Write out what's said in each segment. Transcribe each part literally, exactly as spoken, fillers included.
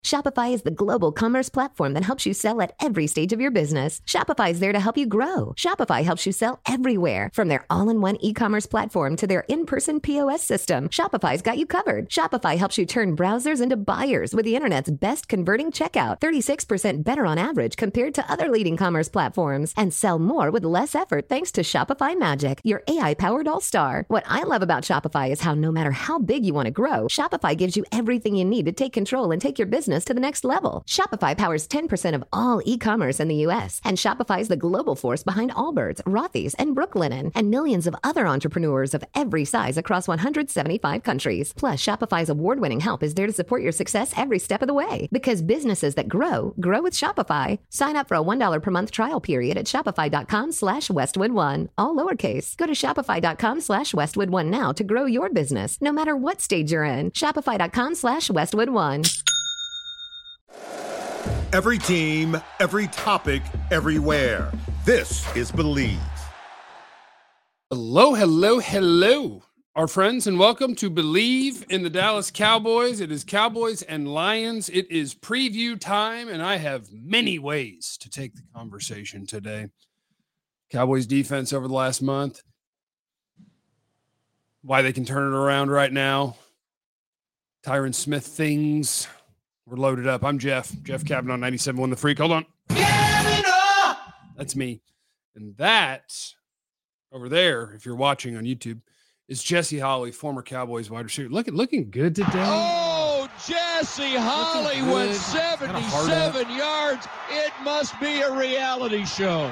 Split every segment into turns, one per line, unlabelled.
Shopify is the global commerce platform that helps you sell at every stage of your business. Shopify is there to help you grow. Shopify helps you sell everywhere, from their all-in-one e-commerce platform to their in-person P O S system. Shopify's got you covered. Shopify helps you turn browsers into buyers with the internet's best converting checkout, thirty-six percent better on average compared to other leading commerce platforms, and sell more with less effort thanks to Shopify Magic, your A I-powered all-star. What I love about Shopify is how no matter how big you want to grow, Shopify gives you everything you need to take control and take your business to the next level. Shopify powers ten percent of all e-commerce in the U S, and Shopify is the global force behind Allbirds, Rothy's, and Brooklinen, and millions of other entrepreneurs of every size across one hundred seventy-five countries. Plus, Shopify's award-winning help is there to support your success every step of the way. Because businesses that grow, grow with Shopify. Sign up for a one dollar per month trial period at shopify.com slash Westwood One. All lowercase. Go to shopify.com slash Westwood One now to grow your business, no matter what stage you're in. Shopify.com slash Westwood One.
Every team, every topic, everywhere. This is Believe.
Hello, hello, hello, our friends, and welcome to Believe in the Dallas Cowboys. It is Cowboys and Lions. It is preview time, and I have many ways to take the conversation today. Cowboys defense over the last month, why they can turn it around right now, Tyron Smith things. We're loaded up. I'm Jeff. Jeff Kavanaugh, ninety-seven point one The Freak. Hold on. That's me. And that over there, if you're watching on YouTube, is Jesse Holley, former Cowboys wide receiver. Look at looking good today.
Oh, Jesse Holley went seventy-seven yards. It must be a reality show.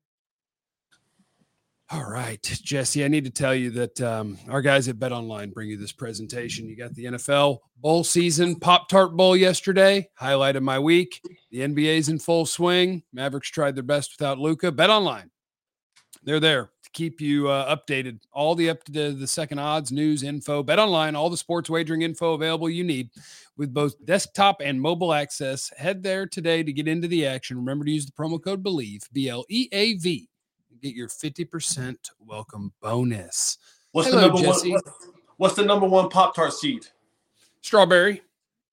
All right, Jesse, I need to tell you that um, our guys at BetOnline bring you this presentation. You got the N F L bowl season, Pop-Tart Bowl yesterday, highlight of my week. The N B A's in full swing. Mavericks tried their best without Luka. BetOnline, they're there to keep you uh, updated. All the up to the second odds, news, info. BetOnline, all the sports wagering info available you need with both desktop and mobile access. Head there today to get into the action. Remember to use the promo code BELIEVE, B L E A V. Get your fifty percent welcome bonus.
What's
Hello,
the number
Jesse.
one? What's, what's the number one Pop-Tart seed?
Strawberry.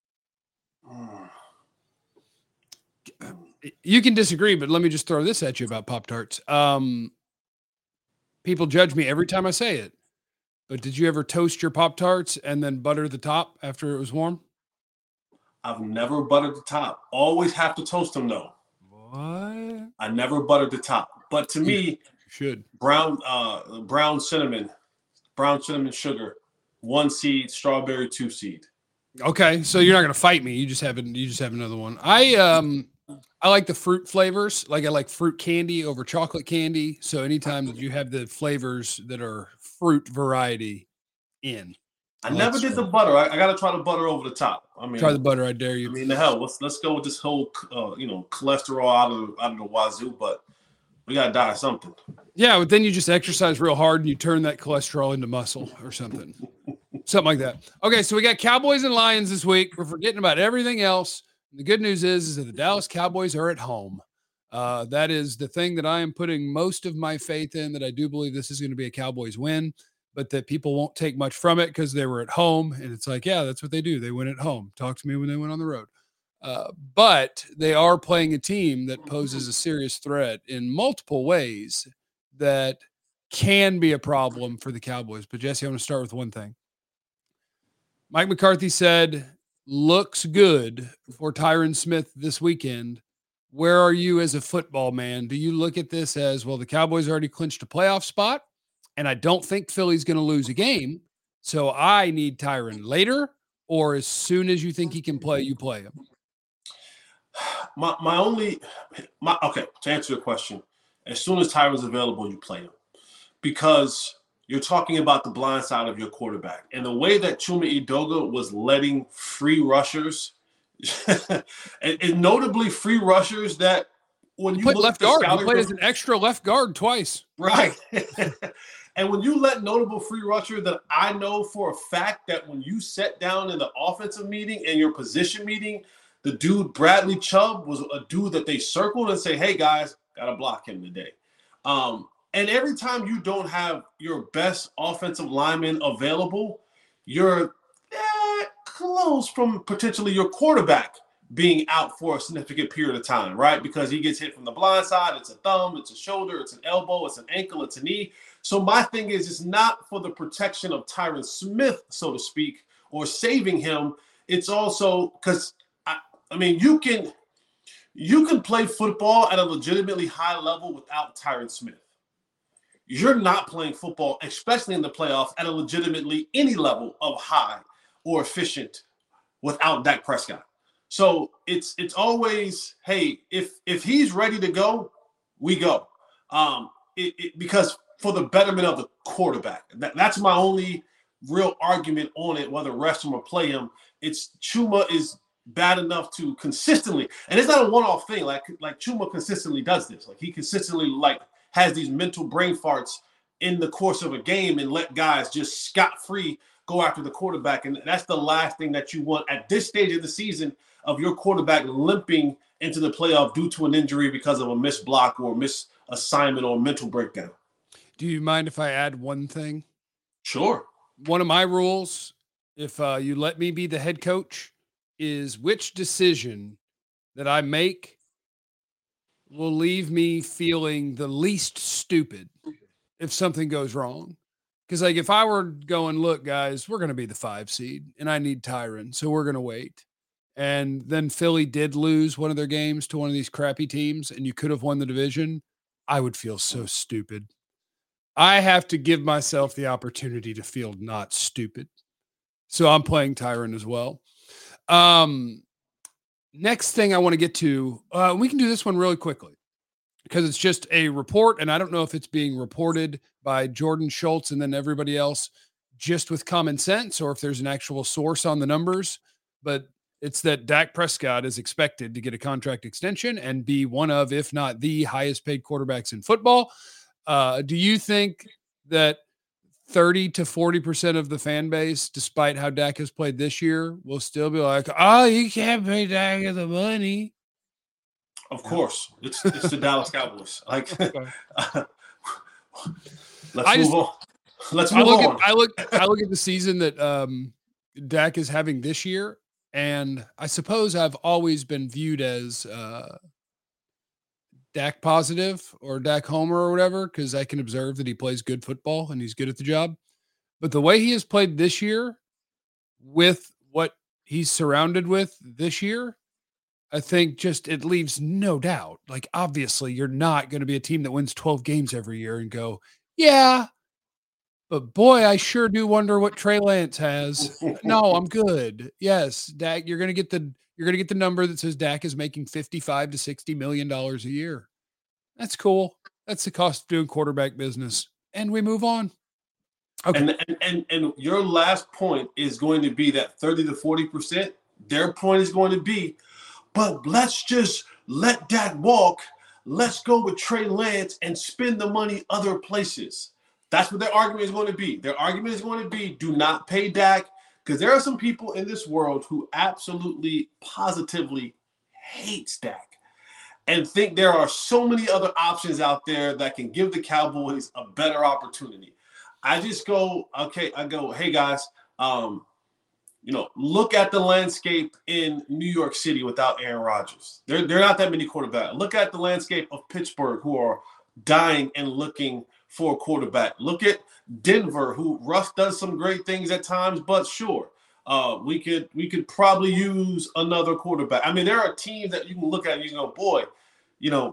You can disagree, but let me just throw this at you about Pop-Tarts. Um, people judge me every time I say it, but did you ever toast your Pop-Tarts and then butter the top after it was warm?
I've never buttered the top. Always have to toast them though.
What?
I never buttered the top. But to me,
you should
brown uh, brown cinnamon, brown cinnamon sugar, one seed, strawberry two seed.
Okay, so you're not gonna fight me. You just have you just have another one. I um I like the fruit flavors. Like I like fruit candy over chocolate candy. So anytime that you have the flavors that are fruit variety in.
I never did the butter. I, I got to try the butter over the top. I mean,
try the butter. I dare you.
I mean, the hell. Let's let's go with this whole uh, you know cholesterol out of out of the wazoo, but. We got to die something.
Yeah, but then you just exercise real hard and you turn that cholesterol into muscle or something. Something like that. Okay, so we got Cowboys and Lions this week. We're forgetting about everything else. The good news is, is that the Dallas Cowboys are at home. Uh, that is the thing that I am putting most of my faith in, that I do believe this is going to be a Cowboys win, but that people won't take much from it because they were at home. And it's like, yeah, that's what they do. They win at home. Talk to me when they went on the road. Uh, but they are playing a team that poses a serious threat in multiple ways that can be a problem for the Cowboys. But Jesse, I want to start with one thing. Mike McCarthy said, looks good for Tyron Smith this weekend. Where are you as a football man? Do you look at this as, well, the Cowboys already clinched a playoff spot, and I don't think Philly's going to lose a game, so I need Tyron later, or as soon as you think he can play, you play him?
My my only my okay, to answer your question, as soon as Tyron's available, you play him. Because you're talking about the blind side of your quarterback. And the way that Chuma Edoga was letting free rushers, and, and notably free rushers that when you
played
look
left
at the
guard,
scouting
he played
pro-
as an extra left guard twice.
Right. And when you let notable free rusher that I know for a fact that when you sat down in the offensive meeting and your position meeting, the dude Bradley Chubb was a dude that they circled and say, hey, guys, got to block him today. Um, and every time you don't have your best offensive lineman available, you're that close from potentially your quarterback being out for a significant period of time, right? Because he gets hit from the blind side. It's a thumb, it's a shoulder, it's an elbow, it's an ankle, it's a knee. So my thing is, it's not for the protection of Tyron Smith, so to speak, or saving him. It's also because, I, I mean, you can you can play football at a legitimately high level without Tyron Smith. You're not playing football, especially in the playoffs, at a legitimately any level of high or efficient without Dak Prescott. So it's it's always, hey, if if he's ready to go, we go. Um, it, it, because for the betterment of the quarterback. That, that's my only real argument on it, whether rest him or play him. It's Chuma is bad enough to consistently, and it's not a one-off thing. Like like Chuma consistently does this. Like he consistently like has these mental brain farts in the course of a game and let guys just scot-free go after the quarterback. And that's the last thing that you want at this stage of the season, of your quarterback limping into the playoff due to an injury because of a missed block or misassignment or mental breakdown.
Do you mind if I add one thing?
Sure.
One of my rules, if uh, you let me be the head coach, is which decision that I make will leave me feeling the least stupid if something goes wrong. Because, like, if I were going, look, guys, we're going to be the five seed, and I need Tyron, so we're going to wait. And then Philly did lose one of their games to one of these crappy teams, and you could have won the division, I would feel so stupid. I have to give myself the opportunity to feel not stupid. So I'm playing Tyron as well. Um, next thing I want to get to, uh, we can do this one really quickly because it's just a report, and I don't know if it's being reported by Jordan Schultz and then everybody else just with common sense or if there's an actual source on the numbers, but it's that Dak Prescott is expected to get a contract extension and be one of, if not the highest paid quarterbacks in football. Uh, do you think that thirty to forty percent of the fan base, despite how Dak has played this year, will still be like, oh, you can't pay Dak the money?
Of course. It's it's the Dallas Cowboys. Like,
Okay.
uh, let's
I
move
just,
on. Let's
I
move
look
on.
at I look I look at the season that um, Dak is having this year, and I suppose I've always been viewed as uh, Dak positive or Dak homer or whatever, because I can observe that he plays good football and he's good at the job. But the way he has played this year with what he's surrounded with this year, I think just it leaves no doubt. Like, obviously, you're not going to be a team that wins twelve games every year and go, yeah, but boy, I sure do wonder what Trey Lance has. No, I'm good. Yes, Dak, you're going to get the you're going to get the number that says Dak is making fifty-five to sixty million dollars a year. That's cool. That's the cost of doing quarterback business. And we move on. Okay.
And, and and and your last point is going to be that thirty to forty percent. Their point is going to be, but let's just let Dak walk. Let's go with Trey Lance and spend the money other places. That's what their argument is going to be. Their argument is going to be, do not pay Dak, because there are some people in this world who absolutely, positively hate Dak and think there are so many other options out there that can give the Cowboys a better opportunity. I just go, okay, I go, hey, guys, um, you know, look at the landscape in New York City without Aaron Rodgers. There, there are not that many quarterbacks. Look at the landscape of Pittsburgh, who are dying and looking for a quarterback. Look at Denver, who Russ does some great things at times, but sure, uh, we could we could probably use another quarterback. I mean, there are teams that you can look at and you can go, boy, you know,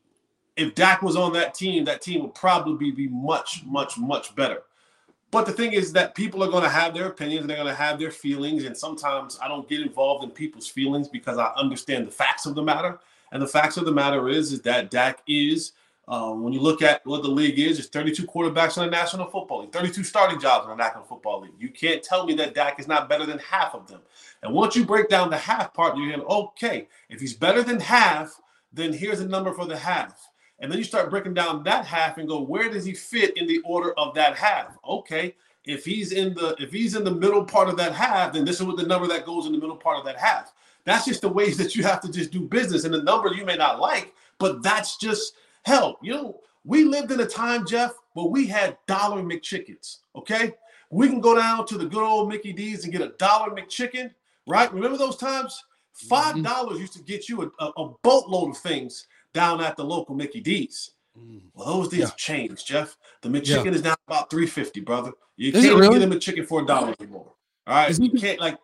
if Dak was on that team, that team would probably be much, much, much better. But the thing is that people are going to have their opinions and they're going to have their feelings. And sometimes I don't get involved in people's feelings because I understand the facts of the matter. And the facts of the matter is, is that Dak is, um, when you look at what the league is, there's thirty-two quarterbacks in the National Football League, thirty-two starting jobs in the National Football League. You can't tell me that Dak is not better than half of them. And once you break down the half part, you're going, okay, if he's better than half, then here's a number for the half. And then you start breaking down that half and go, where does he fit in the order of that half? Okay, if he's in the if he's in the middle part of that half, then this is what the number that goes in the middle part of that half. That's just the ways that you have to just do business. And the number you may not like, but that's just hell. You know, we lived in a time, Jeff, where we had dollar McChickens. Okay, we can go down to the good old Mickey D's and get a dollar McChicken, right? Remember those times? Five dollars mm-hmm. used to get you a, a boatload of things down at the local Mickey D's. Well, those things yeah. changed, Jeff. The McChicken yeah. is now about three fifty, brother. You is can't really? get him a chicken for a dollar anymore. All right, you can't like.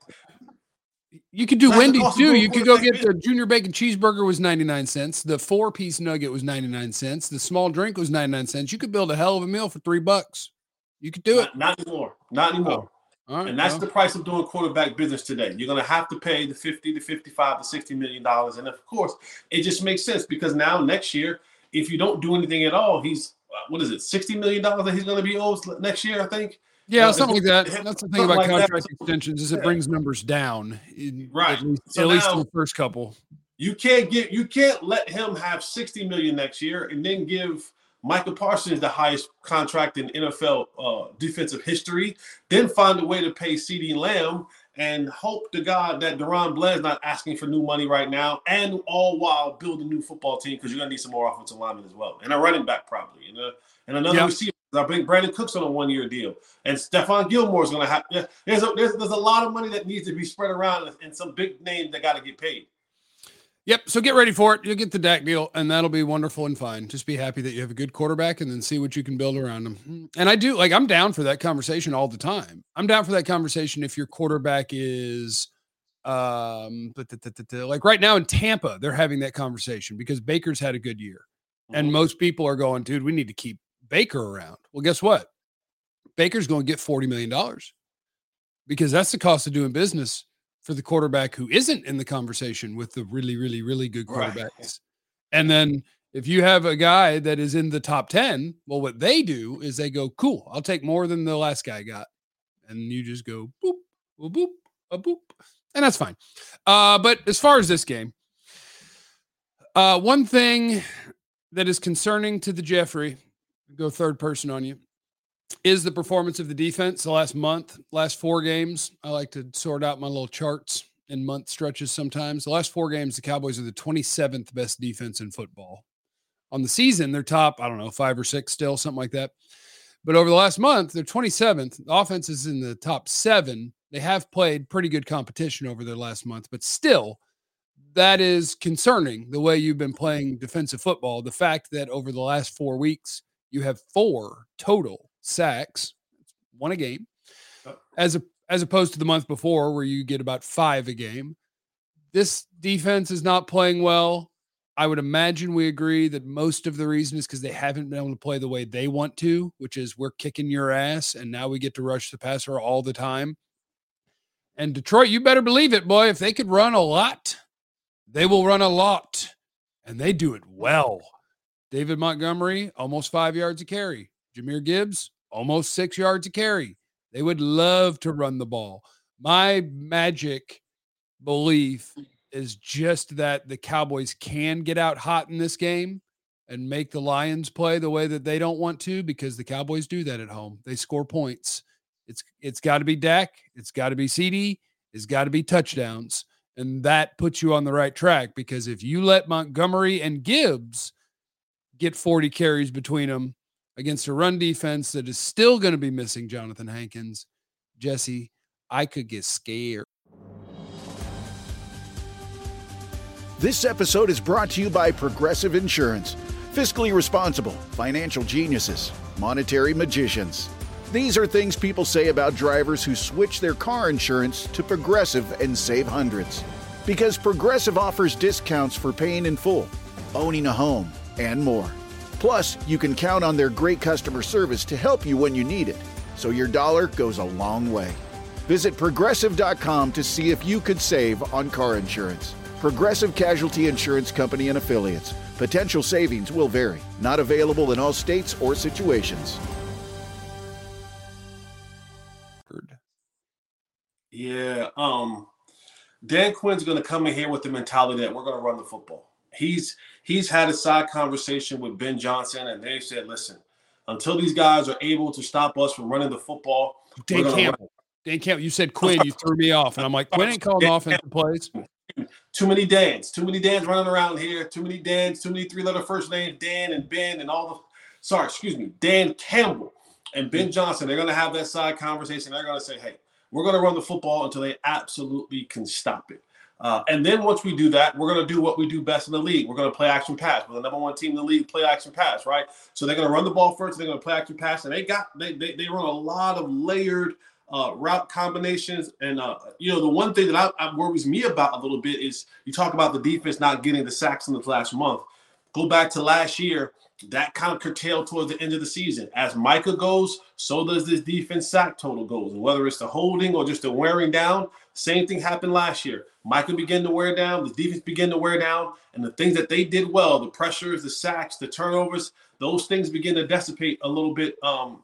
You could do Wendy's too. You could go get the junior bacon cheeseburger was ninety-nine cents. The four piece nugget was ninety-nine cents. The small drink was ninety-nine cents. You could build a hell of a meal for three bucks. You could do
not,
it.
Not anymore. Not anymore.
Oh. Right,
and that's
well.
the price of doing quarterback business today. You're going to have to pay the fifty to fifty-five to sixty million dollars. And of course, it just makes sense because now next year, if you don't do anything at all, he's, what is it, sixty million dollars that he's going to be owed next year, I think?
Yeah, uh, something like that. That's the thing about like contract that. extensions is it yeah. brings numbers down. In,
right.
At least,
so
at least
now,
in the first couple.
You can't get you can't let him have sixty million dollars next year and then give Micah Parsons the highest contract in N F L uh, defensive history, then find a way to pay CeeDee Lamb and hope to God that Deron Blair's not asking for new money right now, and all while build a new football team because you're going to need some more offensive linemen as well. And a running back probably. And, a, and another yep. receiver. I bring Brandon Cooks on a one-year deal. And Stephon Gilmore is going to have yeah, – there's a, there's, there's a lot of money that needs to be spread around and some big names that got to get paid.
Yep. So get ready for it. You'll get the Dak deal, and that'll be wonderful and fine. Just be happy that you have a good quarterback and then see what you can build around him. And I do – like I'm down for that conversation all the time. I'm down for that conversation if your quarterback is um, – but like right now in Tampa, they're having that conversation because Baker's had a good year. Mm-hmm. And most people are going, dude, we need to keep Baker around. Well, guess what? Baker's going to get forty million dollars because that's the cost of doing business for the quarterback who isn't in the conversation with the really, really, really good quarterbacks. Right. And then if you have a guy that is in the top ten, well, what they do is they go, cool, I'll take more than the last guy got. And you just go boop, boop, boop, a boop. And that's fine. Uh, but as far as this game, uh, one thing that is concerning to the Jeffrey, go third person on you, is the performance of the defense the last month, last four games. I like to sort out my little charts in month stretches sometimes. The last four games, the Cowboys are the twenty-seventh best defense in football. On the season, they're top, I don't know, five or six still, something like that. But over the last month, they're twenty-seventh. The offense is in the top seven. They have played pretty good competition over their last month, but still, that is concerning the way you've been playing defensive football. The fact that over the last four weeks, you have four total sacks, one a game, as a, as opposed to the month before where you get about five a game. This defense is not playing well. I would imagine we agree that most of the reason is because they haven't been able to play the way they want to, which is we're kicking your ass, and now we get to rush the passer all the time. And Detroit, you better believe it, boy. If they could run a lot, they will run a lot, and they do it well. David Montgomery, almost five yards a carry. Jahmyr Gibbs, almost six yards a carry. They would love to run the ball. My magic belief is just that the Cowboys can get out hot in this game and make the Lions play the way that they don't want to, because the Cowboys do that at home. They score points. It's It's got to be Dak. It's got to be CeeDee. It's got to be touchdowns. And that puts you on the right track, because if you let Montgomery and Gibbs get forty carries between them against a run defense that is still going to be missing Jonathan Hankins, Jesse, I could get scared.
This episode is brought to you by Progressive Insurance. Fiscally responsible, financial geniuses, monetary magicians. These are things people say about drivers who switch their car insurance to Progressive and save hundreds. Because Progressive offers discounts for paying in full, owning a home, and more. Plus, you can count on their great customer service to help you when you need it, so your dollar goes a long way. Visit Progressive dot com to see if you could save on car insurance. Progressive Casualty Insurance Company and Affiliates. Potential savings will vary. Not available in all states or situations.
Yeah, um, Dan Quinn's going to come in here with the mentality that we're going to run the football. He's he's had a side conversation with Ben Johnson, and they said, listen, until these guys are able to stop us from running the football.
Dan Campbell. Dan Campbell, you said Quinn, you threw me off. And I'm like, Quinn ain't calling Dan offensive Campbell. Plays.
Too many Dans. Too many Dans running around here. Too many Dans. Too many three-letter first names, Dan and Ben and all the – sorry, excuse me, Dan Campbell and Ben Johnson. They're going to have that side conversation. They're going to say, hey, we're going to run the football until they absolutely can stop it. Uh, and then once we do that, we're going to do what we do best in the league. We're going to play action pass. We're the number one team in the league, play action pass, right? So they're going to run the ball first. They're going to play action pass. And they got they they, they run a lot of layered uh, route combinations. And, uh, you know, the one thing that I, I worries me about a little bit is you talk about the defense not getting the sacks in the last month. Go back to last year. That kind of curtailed towards the end of the season. As Micah goes, so does this defense sack total goes. And whether it's the holding or just the wearing down, same thing happened last year. Micah began to wear down, the defense began to wear down, and the things that they did well, the pressures, the sacks, the turnovers, those things begin to dissipate a little bit um,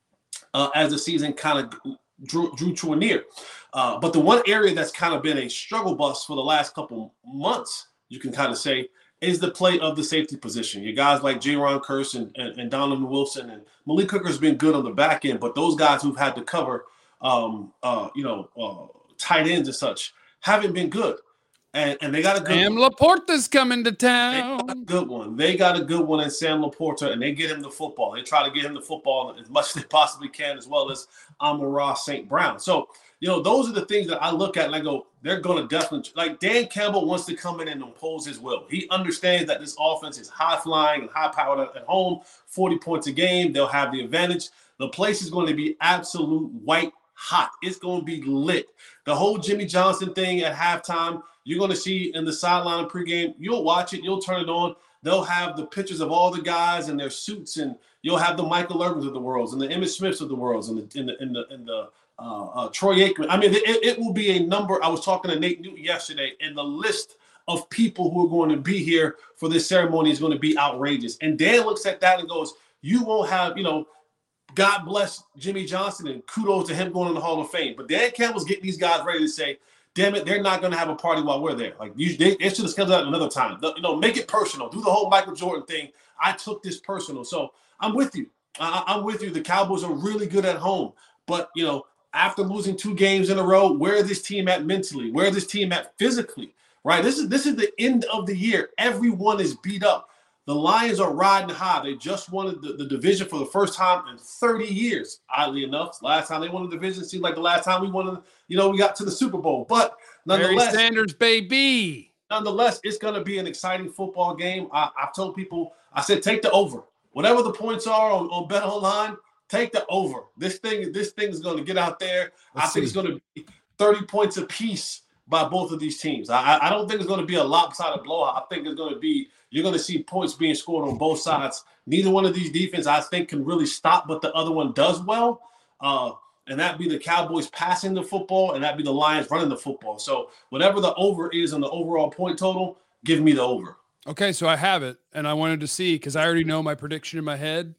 uh, as the season kind of drew, drew to a near. Uh, but the one area that's kind of been a struggle bus for the last couple months, you can kind of say, is the play of the safety position. You guys like Jaron Kearse and, and, and Donovan Wilson and Malik Hooker's been good on the back end, but those guys who've had to cover, um, uh, you know, uh, tight ends and such haven't been good. And, and they got a good
Sam
one.
Laporta's coming to town.
They got a good one. They got a good one in Sam Laporta, and they get him the football. They try to get him the football as much as they possibly can, as well as Amon-Ra Saint Brown. So, you know, those are the things that I look at and I go, they're going to definitely – like Dan Campbell wants to come in and impose his will. He understands that this offense is high-flying and high-powered at home, forty points a game. They'll have the advantage. The place is going to be absolute white hot. It's going to be lit. The whole Jimmy Johnson thing at halftime, you're going to see in the sideline and pregame. You'll watch it. You'll turn it on. They'll have the pictures of all the guys in their suits, and you'll have the Michael Irvins of the world and the Emmitt Smiths of the world and the – in the, in the, in the Uh, uh, Troy Aikman. I mean, it, it will be a number. I was talking to Nate Newton yesterday, and the list of people who are going to be here for this ceremony is going to be outrageous. And Dan looks at that and goes, you won't have, you know, God bless Jimmy Johnson and kudos to him going in the Hall of Fame. But Dan Campbell's getting these guys ready to say, damn it, they're not going to have a party while we're there. Like, you, they, they should have scheduled that another time. You know, make it personal. Do the whole Michael Jordan thing. I took this personal. So I'm with you. I, I'm with you. The Cowboys are really good at home. But, you know, after losing two games in a row, where is this team at mentally? Where is this team at physically? Right? This is this is the end of the year. Everyone is beat up. The Lions are riding high. They just won the, the division for the first time in thirty years, oddly enough. Last time they won the division seemed like the last time we won, you know, we got to the Super Bowl. But nonetheless,
Barry Sanders, baby.
Nonetheless, it's going to be an exciting football game. I, I've told people, I said, take the over. Whatever the points are on, on Bet Online, take the over. This thing, this thing is going to get out there. Let's I think see. It's going to be thirty points apiece by both of these teams. I, I don't think it's going to be a lopsided blowout. I think it's going to be, you're going to see points being scored on both sides. Neither one of these defenses, I think, can really stop, but the other one does well. Uh, and that'd be the Cowboys passing the football, and that'd be the Lions running the football. So whatever the over is on the overall point total, give me the over.
Okay, so I have it, and I wanted to see, because I already know my prediction in my head.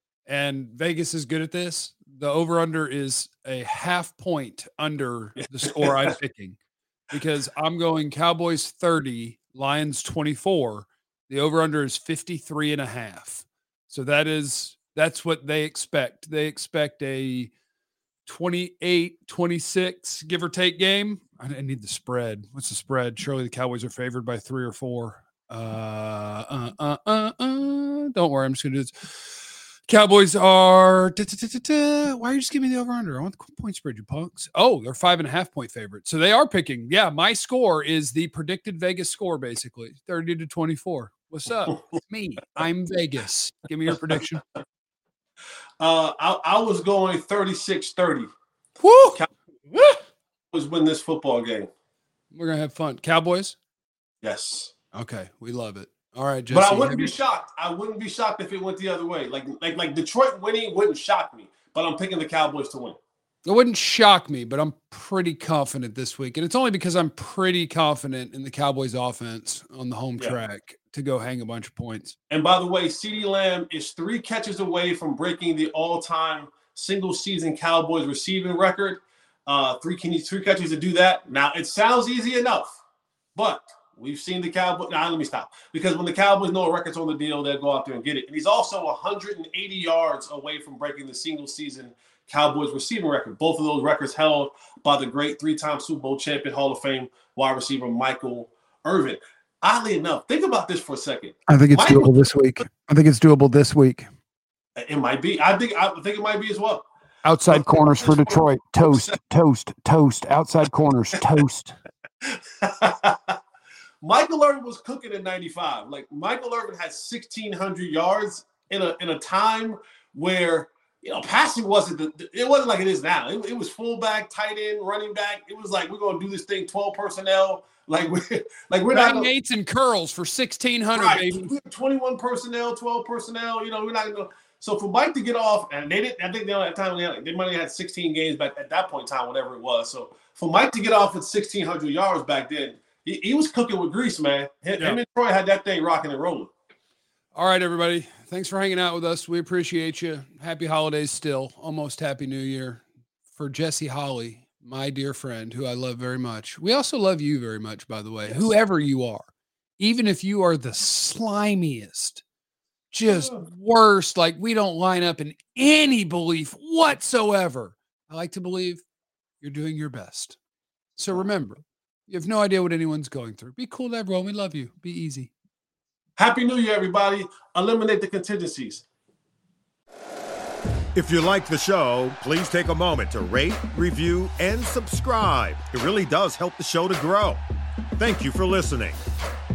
And Vegas is good at this. The over-under is a half point under the score I'm picking, because I'm going Cowboys thirty, Lions twenty-four. The over-under is fifty-three and a half. So that is, that's what they expect. They expect a twenty-eight twenty-six, give or take game. I need the spread. What's the spread? Surely the Cowboys are favored by three or four. Uh, uh, uh, uh, uh. Don't worry. I'm just going to do this. Cowboys are da, da, da, da, da. Why are you just giving me the over under? I want the point spread, you punks. Oh, they're five and a half point favorites. So they are picking. Yeah, my score is the predicted Vegas score, basically. thirty to twenty-four. What's up? It's me. I'm Vegas. Give me your prediction.
Uh I, I was going thirty-six thirty.
Woo!
Cowboys win this football game.
We're gonna have fun. Cowboys?
Yes.
Okay, we love it. All right, Jesse.
But I wouldn't be shocked. I wouldn't be shocked if it went the other way. Like, like, like Detroit winning wouldn't shock me. But I'm picking the Cowboys to win.
It wouldn't shock me, but I'm pretty confident this week. And it's only because I'm pretty confident in the Cowboys offense on the home yeah. track to go hang a bunch of points.
And by the way, CeeDee Lamb is three catches away from breaking the all-time single-season Cowboys receiving record. Uh, three, can you, three catches to do that. Now, it sounds easy enough, but we've seen the Cowboys. Now, let me stop. Because when the Cowboys know a record's on the deal, they'll go out there and get it. And he's also one hundred eighty yards away from breaking the single-season Cowboys receiving record. Both of those records held by the great three-time Super Bowl champion, Hall of Fame wide receiver Michael Irvin. Oddly enough, think about this for a second.
I think it's
Michael,
doable this week. I think it's doable this week.
It might be. I think I think it might be as well.
Outside corners for Detroit. Toast, toast, toast. Outside corners, toast.
Michael Irvin was cooking in ninety-five. Like, Michael Irvin had sixteen hundred yards in a in a time where, you know, passing wasn't the, it wasn't like it is now. It, it was fullback, tight end, running back. It was like, we're gonna do this thing twelve personnel. Like we're like we're not gonna,
eights and curls for sixteen hundred,
right,
baby.
twenty-one personnel, twelve personnel. You know, we're not gonna. So for Mike to get off, and they didn't. I think they at that time they, had, they might have had sixteen games back at that point in time, whatever it was. So for Mike to get off at sixteen hundred yards back then, he, he was cooking with grease, man. Him,
yeah.
him and Troy had that thing rocking and rolling.
All right, everybody. Thanks for hanging out with us. We appreciate you. Happy holidays still. Almost happy new year. For Jesse Holly, my dear friend, who I love very much. We also love you very much, by the way, yes. Whoever you are. Even if you are the slimiest, just worst, like we don't line up in any belief whatsoever. I like to believe you're doing your best. So remember, you have no idea what anyone's going through. Be cool to everyone. We love you. Be easy.
Happy New Year, everybody. Eliminate the contingencies.
If you like the show, please take a moment to rate, review, and subscribe. It really does help the show to grow. Thank you for listening.